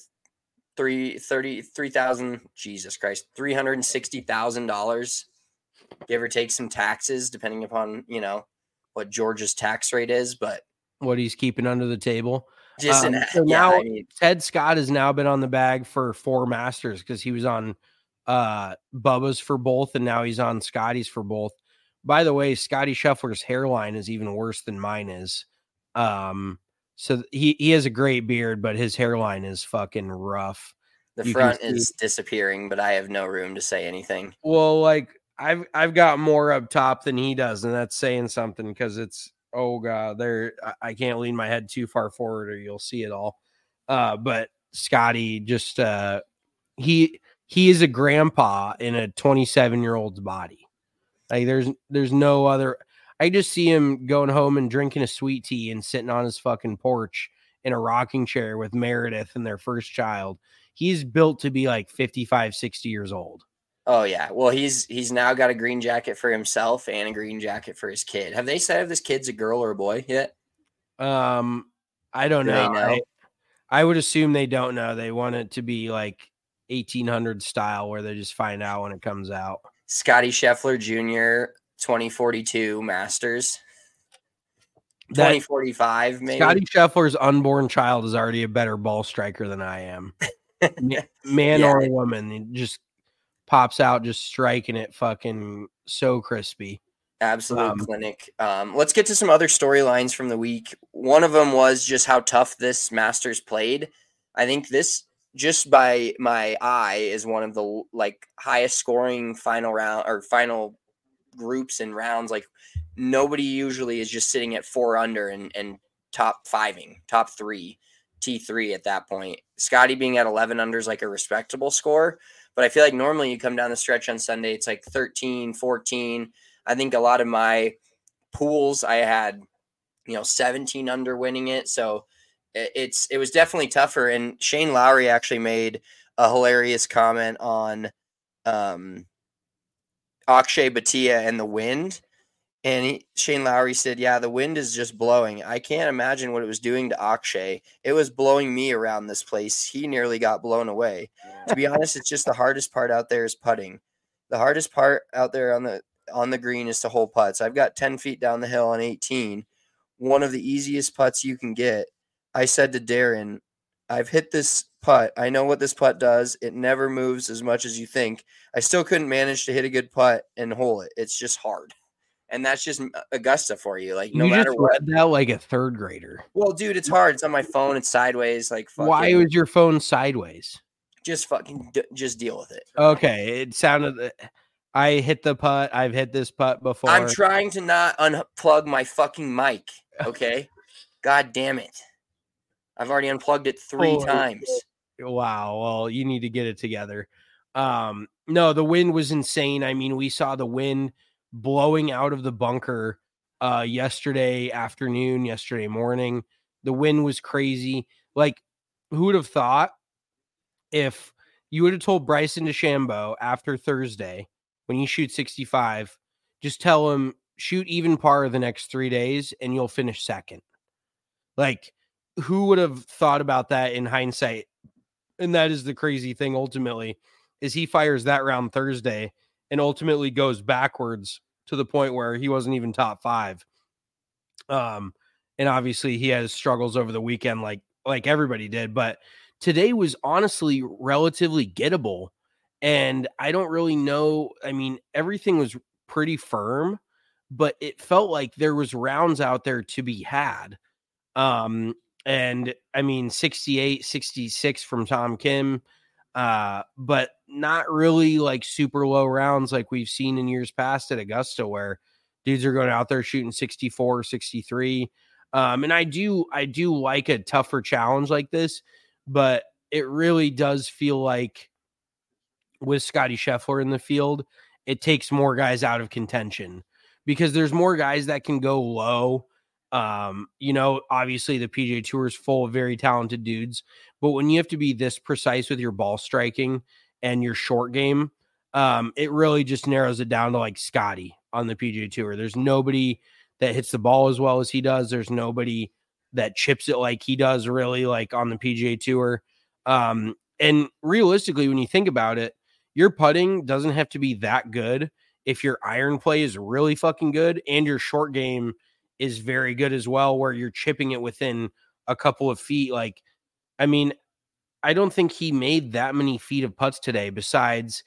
$360,000, give or take some taxes, depending upon, what Georgia's tax rate is, but what he's keeping under the table. Ted Scott has now been on the bag for 4 Masters because he was on Bubba's for both, and now he's on Scotty's for both. By the way, Scotty Scheffler's hairline is even worse than mine is. So he has a great beard, but his hairline is fucking rough. The front is disappearing, but I have no room to say anything. Well, like I've got more up top than he does, and that's saying something because it's, oh God, I can't lean my head too far forward or you'll see it all. But Scotty just he is a grandpa in a 27-year-old's body. Like there's no other. I just see him going home and drinking a sweet tea and sitting on his fucking porch in a rocking chair with Meredith and their first child. He's built to be like 55, 60 years old. Oh yeah. Well, he's now got a green jacket for himself and a green jacket for his kid. Have they said if this kid's a girl or a boy yet? I don't know. I would assume they don't know. They want it to be like 1800 style where they just find out when it comes out. Scotty Scheffler Jr. 2042 Masters. 2045 maybe. Scotty Scheffler's unborn child is already a better ball striker than I am. Man or a woman, it just pops out just striking it fucking so crispy. Absolute clinic. Let's get to some other storylines from the week. One of them was just how tough this Masters played. I think this, just by my eye, is one of the highest scoring final round or final groups and rounds. Like nobody usually is just sitting at 4 under and top 3. T3 at that point. Scotty being at 11 under is like a respectable score. But I feel like normally you come down the stretch on Sunday, it's like 13, 14. I think a lot of my pools, I had, 17 under winning it. So it was definitely tougher. And Shane Lowry actually made a hilarious comment on Akshay Bhatia and the wind. And Shane Lowry said, yeah, the wind is just blowing. I can't imagine what it was doing to Akshay. It was blowing me around this place. He nearly got blown away. To be honest, it's just the hardest part out there is putting. The hardest part out there on the green is to hole putts. I've got 10 feet down the hill on 18. One of the easiest putts you can get. I said to Darren, I've hit this putt. I know what this putt does. It never moves as much as you think. I still couldn't manage to hit a good putt and hole it. It's just hard. And that's just Augusta for you. Like, no matter what. Read that like a third grader. Well, dude, it's hard. It's on my phone. It's sideways. Like, why was your phone sideways? Just just deal with it. Okay. It sounded. I hit the putt. I've hit this putt before. I'm trying to not unplug my fucking mic. Okay. God damn it. I've already unplugged it 3 times. Wow. Well, you need to get it together. No, the wind was insane. I mean, we saw the wind blowing out of the bunker yesterday afternoon, yesterday morning. The wind was crazy. Like, who would have thought if you would have told Bryson DeChambeau after Thursday when you shoot 65, just tell him shoot even par the next 3 days and you'll finish second. Like, who would have thought about that in hindsight? And that is the crazy thing ultimately, is he fires that round Thursday and ultimately goes backwards to the point where he wasn't even top 5. And obviously he has struggles over the weekend, like everybody did, but today was honestly relatively gettable. And I don't really know. I mean, everything was pretty firm, but it felt like there was rounds out there to be had. And I mean, 68, 66 from Tom Kim, but not really like super low rounds like we've seen in years past at Augusta, where dudes are going out there shooting 64, 63. And I do like a tougher challenge like this, but it really does feel like with Scotty Scheffler in the field, it takes more guys out of contention because there's more guys that can go low. Obviously the PGA Tour is full of very talented dudes, but when you have to be this precise with your ball striking and your short game, it really just narrows it down to like Scotty on the PGA Tour. There's nobody that hits the ball as well as he does. There's nobody that chips it like he does really like on the PGA Tour. And realistically, when you think about it, your putting doesn't have to be that good if your iron play is really fucking good and your short game is very good as well, where you're chipping it within a couple of feet. Like, I mean, I don't think he made that many feet of putts today besides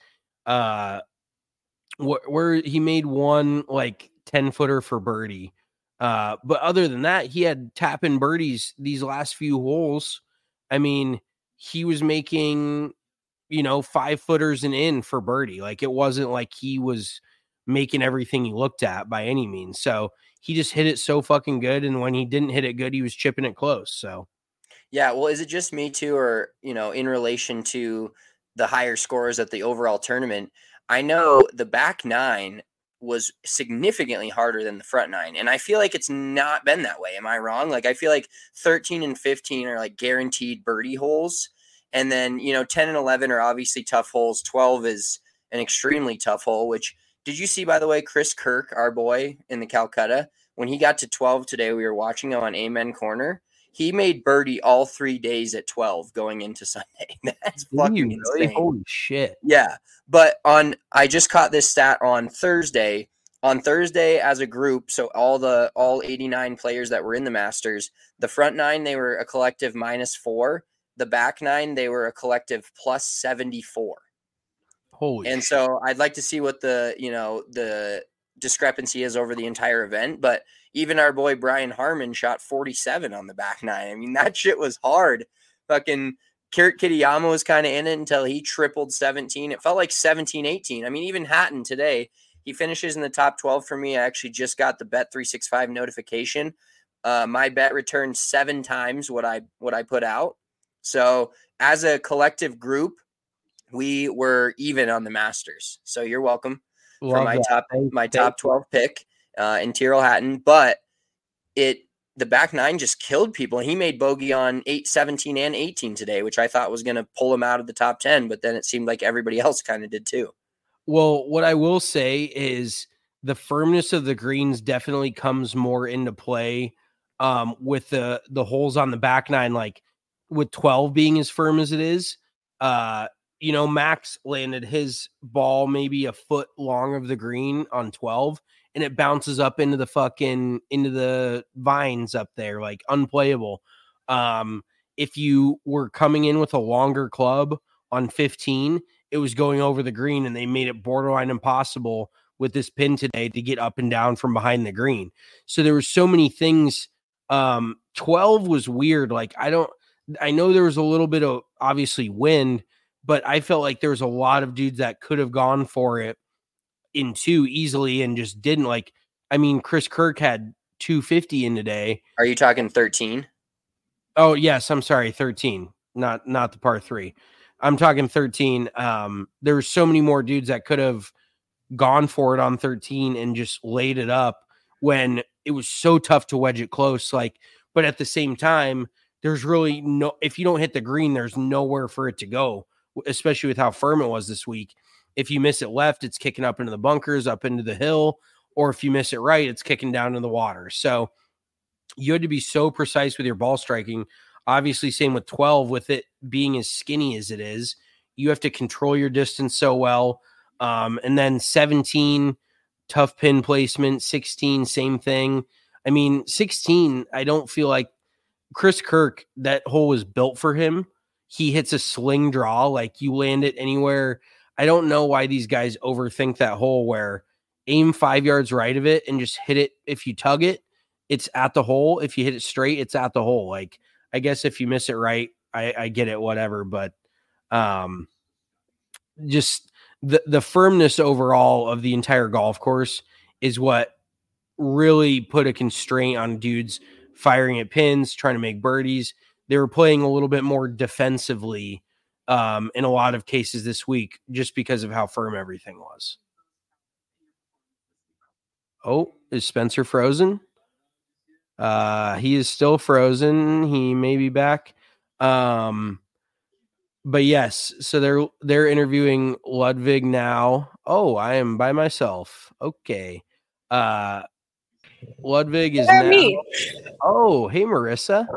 where he made one like 10-footer for birdie. But other than that, he had tap-in birdies these last few holes. I mean, he was making, 5-footers and in for birdie. Like, it wasn't like he was making everything he looked at by any means. So he just hit it so fucking good. And when he didn't hit it good, he was chipping it close. So, yeah. Well, is it just me too, or, in relation to the higher scores at the overall tournament? I know the back 9 was significantly harder than the front 9. And I feel like it's not been that way. Am I wrong? Like, I feel like 13 and 15 are like guaranteed birdie holes. And then, 10 and 11 are obviously tough holes. 12 is an extremely tough hole, which, did you see, by the way, Chris Kirk, our boy in the Calcutta, when he got to 12 today, we were watching him on Amen Corner. He made birdie all 3 days at 12 going into Sunday. That's fucking insane. Holy shit. Yeah. But I just caught this stat on Thursday. On Thursday as a group, so all 89 players that were in the Masters, the front 9, they were a collective -4. The back 9, they were a collective +74. Holy and shit. So I'd like to see what the discrepancy is over the entire event. But even our boy Brian Harmon shot 47 on the back 9. I mean, that shit was hard. Fucking Kurt Kitayama was kind of in it until he tripled 17. It felt like 17, 18. I mean, even Hatton today, he finishes in the top 12 for me. I actually just got the Bet365 notification. My bet returned 7 times what I put out. So as a collective group, we were even on the Masters. So you're welcome for my top 12 pick in Tyrrell Hatton. But the back nine just killed people. And he made bogey on 8, 17, and 18 today, which I thought was going to pull him out of the top 10. But then it seemed like everybody else kind of did too. Well, what I will say is the firmness of the greens definitely comes more into play with the holes on the back nine, like with 12 being as firm as it is. Max landed his ball maybe a foot long of the green on 12, and it bounces up into the vines up there, like unplayable. If you were coming in with a longer club on 15, it was going over the green, and they made it borderline impossible with this pin today to get up and down from behind the green. So there were so many things. 12 was weird. Like, I know there was a little bit of obviously wind, but I felt like there was a lot of dudes that could have gone for it in 2 easily and just didn't. Like, I mean, Chris Kirk had 250 in today. Are you talking 13? Oh, yes. I'm sorry. 13, not the par 3. I'm talking 13. There were so many more dudes that could have gone for it on 13 and just laid it up when it was so tough to wedge it close. Like, but at the same time, there's really if you don't hit the green, there's nowhere for it to go, especially with how firm it was this week. If you miss it left, it's kicking up into the bunkers, up into the hill, or if you miss it right, it's kicking down in the water. So you had to be so precise with your ball striking. Obviously, same with 12, with it being as skinny as it is, you have to control your distance so well. And then 17, tough pin placement, 16, same thing. I mean, 16, I don't feel like Chris Kirk, that hole was built for him. He hits a sling draw, like you land it anywhere. I don't know why these guys overthink that hole where aim 5 yards right of it and just hit it. If you tug it, it's at the hole. If you hit it straight, it's at the hole. Like, I guess if you miss it right, I get it, whatever. But just the firmness overall of the entire golf course is what really put a constraint on dudes firing at pins, trying to make birdies. They were playing a little bit more defensively in a lot of cases this week, just because of how firm everything was. Oh, is Spencer frozen? He is still frozen. He may be back. But yes, so they're interviewing Ludwig now. Oh, I am by myself. Okay. Ludwig is now. Me. Oh, hey Marissa.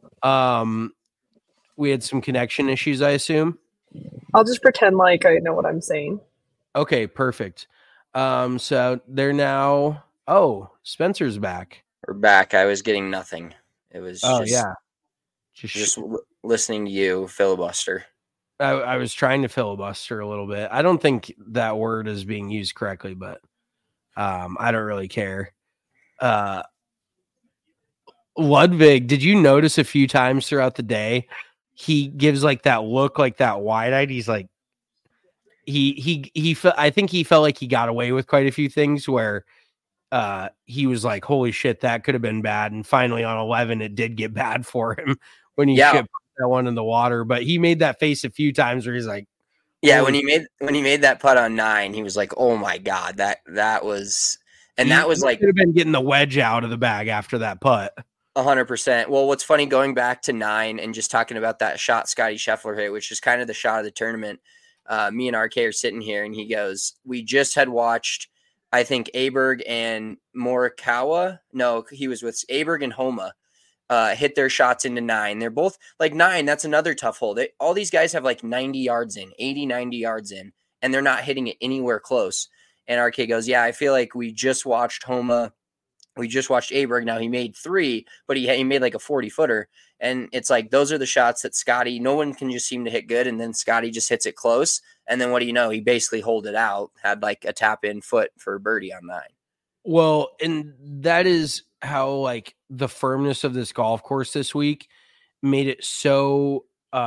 We had some connection issues, I assume. I'll just pretend like I know what I'm saying. Okay, perfect. So they're now. Oh, Spencer's back. We're back. I was getting nothing. It was. Just listening to you filibuster. I was trying to filibuster a little bit. I don't think that word is being used correctly, but I don't really care. Ludwig, did you notice a few times throughout the day he gives like that look, like that wide-eyed? He's like he I think he felt like he got away with quite a few things where he was like, holy shit, that could have been bad. And finally on 11 it did get bad for him when he shipped that one in the water. But he made that face a few times where he's like, when he made that putt on 9, he was like, oh my god, that was, and that was like, could have been getting the wedge out of the bag after that putt. 100%. Well, what's funny, going back to 9 and just talking about that shot Scotty Scheffler hit, which is kind of the shot of the tournament. Me and RK are sitting here and he goes, we just had watched, I think, Aberg and Morikawa. No, he was with Aberg and Homa. Hit their shots into 9. They're both like 9. That's another tough hole. All these guys have like 90 yards in, 80, 90 yards in, and they're not hitting it anywhere close. And RK goes, yeah, I feel like we just watched Homa. We just watched Aberg. Now he made 3, but he made like a 40-footer. And it's like, those are the shots that Scotty, no one can just seem to hit good. And then Scotty just hits it close. And then what do you know? He basically holed it out, had like a tap in foot for a birdie on 9. Well, and that is how like the firmness of this golf course this week made it so,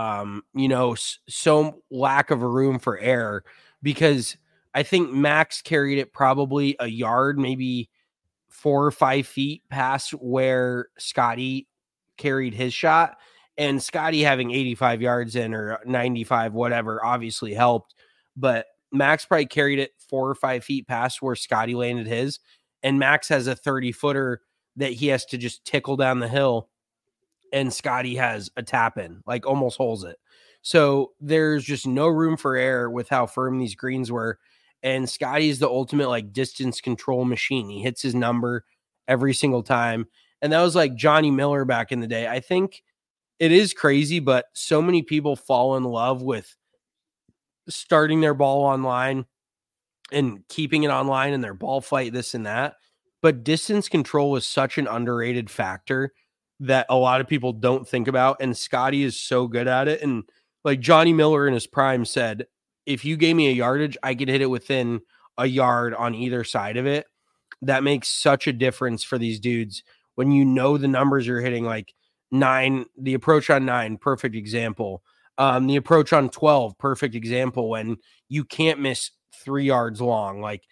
so lack of a room for error, because I think Max carried it probably a yard, maybe 4 or 5 feet past where Scotty carried his shot, and Scotty having 85 yards in or 95, whatever, obviously helped. But Max probably carried it 4 or 5 feet past where Scotty landed his. And Max has a 30-footer that he has to just tickle down the hill. And Scotty has a tap in, like almost holes it. So there's just no room for error with how firm these greens were. And Scotty's the ultimate like distance control machine. He hits his number every single time. And that was like Johnny Miller back in the day. I think it is crazy, but so many people fall in love with starting their ball online and keeping it online and their ball flight, this and that. But distance control was such an underrated factor that a lot of people don't think about. And Scotty is so good at it. And like Johnny Miller in his prime said, if you gave me a yardage, I could hit it within a yard on either side of it. That makes such a difference for these dudes when you know the numbers you're hitting, like 9, the approach on 9, perfect example. The approach on 12, perfect example, when you can't miss 3 yards long. Like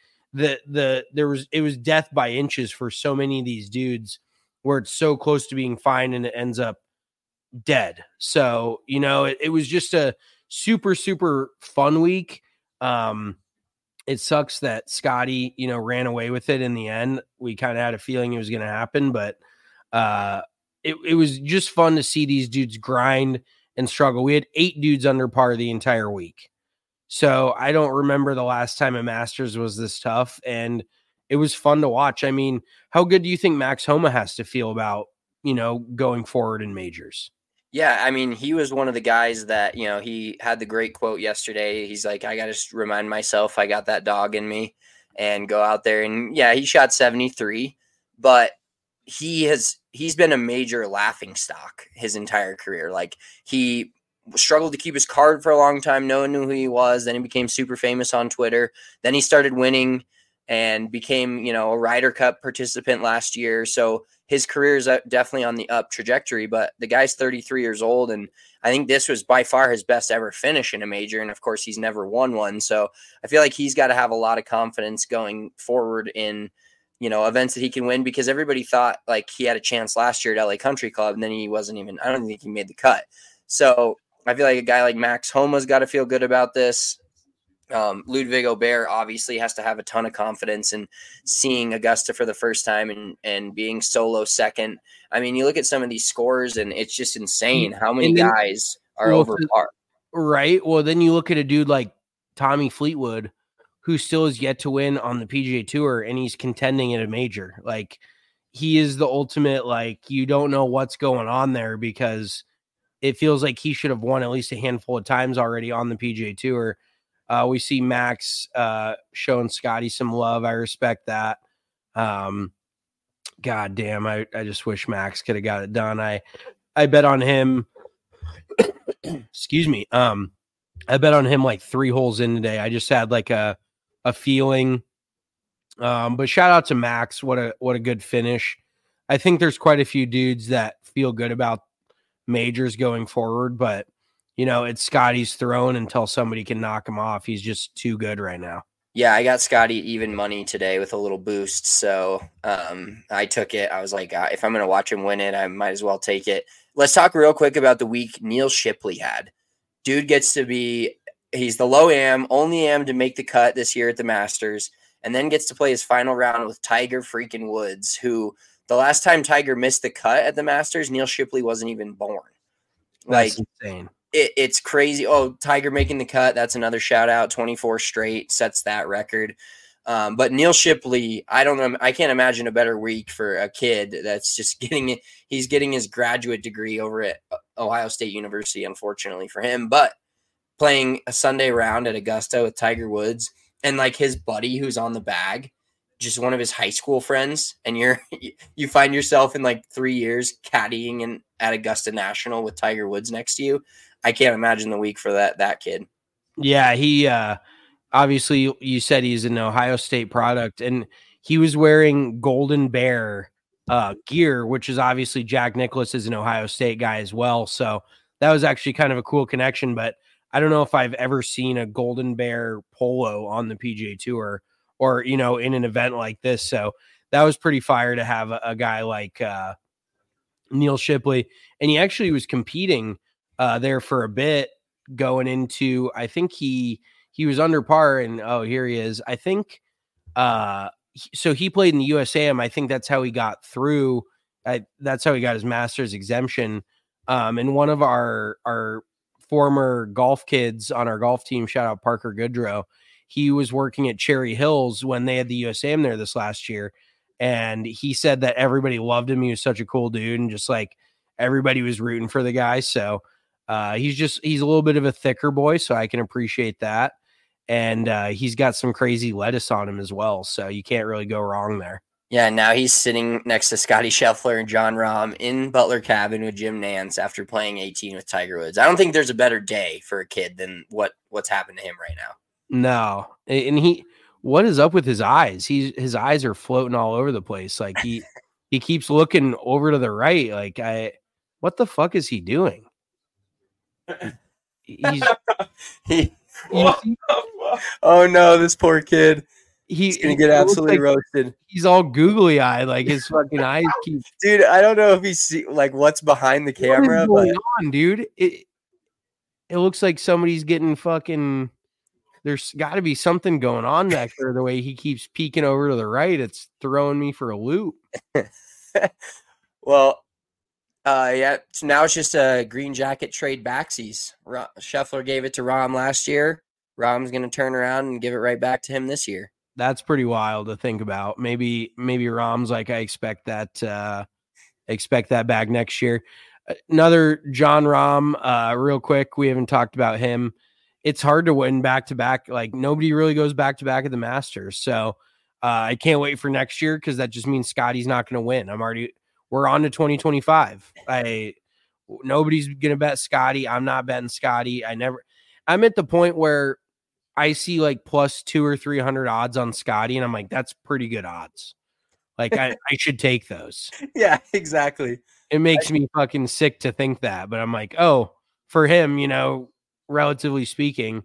it was death by inches for so many of these dudes where it's so close to being fine and it ends up dead. So, you know, it was just a super, super fun week. It sucks that Scotty, you know, ran away with it in the end. We kind of had a feeling it was going to happen, but it was just fun to see these dudes grind and struggle. We had 8 dudes under par the entire week. So I don't remember the last time a Masters was this tough, and it was fun to watch. I mean, how good do you think Max Homa has to feel about, you know, going forward in majors? Yeah, I mean, he was one of the guys that, you know, he had the great quote yesterday. He's like, I got to remind myself I got that dog in me and go out there. And yeah, he shot 73, but he's been a major laughing stock his entire career. Like, he struggled to keep his card for a long time. No one knew who he was. Then he became super famous on Twitter. Then he started winning and became, you know, a Ryder Cup participant last year. So his career is definitely on the up trajectory, but the guy's 33 years old. And I think this was by far his best ever finish in a major. And of course he's never won one. So I feel like he's got to have a lot of confidence going forward in, you know, events that he can win, because everybody thought like he had a chance last year at LA Country Club. And then he wasn't even, I don't think he made the cut. So I feel like a guy like Max Homa's got to feel good about this. Ludwig Aubert obviously has to have a ton of confidence in seeing Augusta for the first time and being solo second. I mean, you look at some of these scores and it's just insane how many guys are over par. Right. Well, then you look at a dude like Tommy Fleetwood, who still is yet to win on the PGA Tour, and he's contending at a major. Like, he is the ultimate, like, you don't know what's going on there, because it feels like he should have won at least a handful of times already on the PGA Tour. We see Max showing Scotty some love. I respect that. God damn, I just wish Max could have got it done. I bet on him. Excuse me. I bet on him like 3 holes in today. I just had like a feeling. But shout out to Max. What a good finish. I think there's quite a few dudes that feel good about majors going forward, but you know, it's Scotty's throne until somebody can knock him off. He's just too good right now. Yeah, I got Scotty even money today with a little boost. So I took it. I was like, if I'm going to watch him win it, I might as well take it. Let's talk real quick about the week Neil Shipley had. Dude gets to be, he's the low am, only am to make the cut this year at the Masters, and then gets to play his final round with Tiger freaking Woods, who the last time Tiger missed the cut at the Masters, Neil Shipley wasn't even born. That's insane. It's crazy. Oh, Tiger making the cut. That's another shout out. 24 straight sets that record. But Neil Shipley, I don't know. I can't imagine a better week for a kid that's just getting it. He's getting his graduate degree over at Ohio State University, unfortunately for him, but playing a Sunday round at Augusta with Tiger Woods and like his buddy who's on the bag, just one of his high school friends. And you find yourself in like 3 years caddying at Augusta National with Tiger Woods next to you. I can't imagine the week for that kid. Yeah, he obviously, you said he's an Ohio State product, and he was wearing Golden Bear gear, which is obviously Jack Nicklaus is an Ohio State guy as well. So that was actually kind of a cool connection, but I don't know if I've ever seen a Golden Bear polo on the PGA Tour or, you know, in an event like this. So that was pretty fire to have a guy like Neil Shipley. And he actually was competing there for a bit going into, I think he was under par, and here he is. I think so he played in the USAM. I think that's how he got through. That's how he got his master's exemption. And one of our former golf kids on our golf team, shout out Parker Goodrow, he was working at Cherry Hills when they had the USAM there this last year. And he said that everybody loved him. He was such a cool dude, and just like everybody was rooting for the guy. So he's a little bit of a thicker boy, so I can appreciate that. And he's got some crazy lettuce on him as well. So you can't really go wrong there. Yeah, now he's sitting next to Scotty Scheffler and Jon Rahm in Butler Cabin with Jim Nantz after playing 18 with Tiger Woods. I don't think there's a better day for a kid than what's happened to him right now. No. And what is up with his eyes? His eyes are floating all over the place. Like he keeps looking over to the right. Like what the fuck is he doing? Oh no, this poor kid. He's gonna get absolutely roasted. He's all googly eyed, like his fucking eyes keep. Dude, I don't know if he's like what's behind the camera. What is going on, dude? It looks like somebody's getting fucking. There's got to be something going on back there. The way he keeps peeking over to the right, it's throwing me for a loop. Well, yeah. So now it's just a green jacket trade backsies. Scheffler gave it to Rahm last year. Rahm's gonna turn around and give it right back to him this year. That's pretty wild to think about. Maybe Rahm's like, I expect that back next year. Another Jon Rahm, real quick. We haven't talked about him. It's hard to win back to back. Like nobody really goes back to back at the Masters. So I can't wait for next year, because that just means Scotty's not going to win. We're on to 2025. Nobody's going to bet Scotty. I'm not betting Scotty. I'm at the point where I see like plus 200 or 300 odds on Scotty, and I'm like, that's pretty good odds. Like I should take those. Yeah, exactly. It makes me fucking sick to think that, but I'm like, oh, for him, relatively speaking,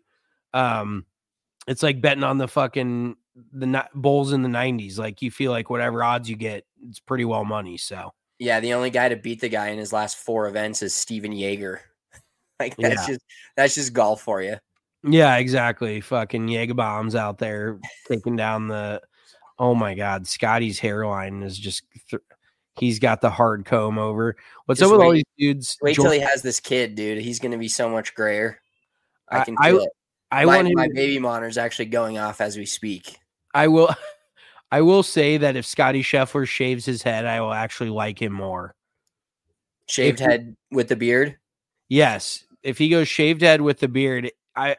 it's like betting on the fucking the Bulls in the 90s. Like you feel like whatever odds you get, it's pretty well money. So yeah, the only guy to beat the guy in his last 4 events is Steven Jaeger. Like that's just golf for you. Yeah, exactly. Fucking Jaeger bombs out there taking down the. Oh my God, Scotty's hairline is just. He's got the hard comb over. What's up with all these dudes? Wait till he has this kid, dude. He's going to be so much grayer. I can feel it. My baby monitor's actually going off as we speak. I will say that if Scotty Scheffler shaves his head, I will actually like him more. Shaved head with the beard? Yes. If he goes shaved head with the beard,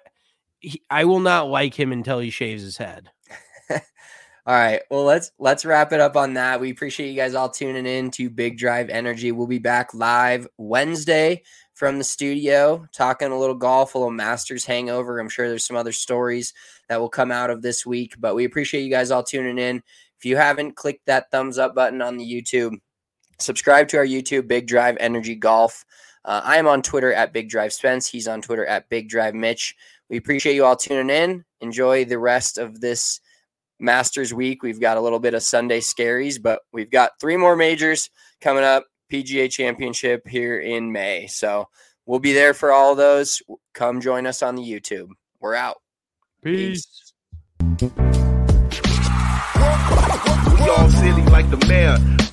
I will not like him until he shaves his head. All right. Well, let's wrap it up on that. We appreciate you guys all tuning in to Big Drive Energy. We'll be back live Wednesday from the studio, talking a little golf, a little Masters hangover. I'm sure there's some other stories that will come out of this week, but we appreciate you guys all tuning in. If you haven't, click that thumbs up button on the YouTube. Subscribe to our YouTube, Big Drive Energy Golf. I am on Twitter at Big Drive Spence. He's on Twitter at Big Drive Mitch. We appreciate you all tuning in. Enjoy the rest of this Masters week. We've got a little bit of Sunday scaries, but we've got 3 more majors coming up. PGA Championship here in May. So we'll be there for all of those. Come join us on the YouTube. We're out. Peace. We all silly like the mayor.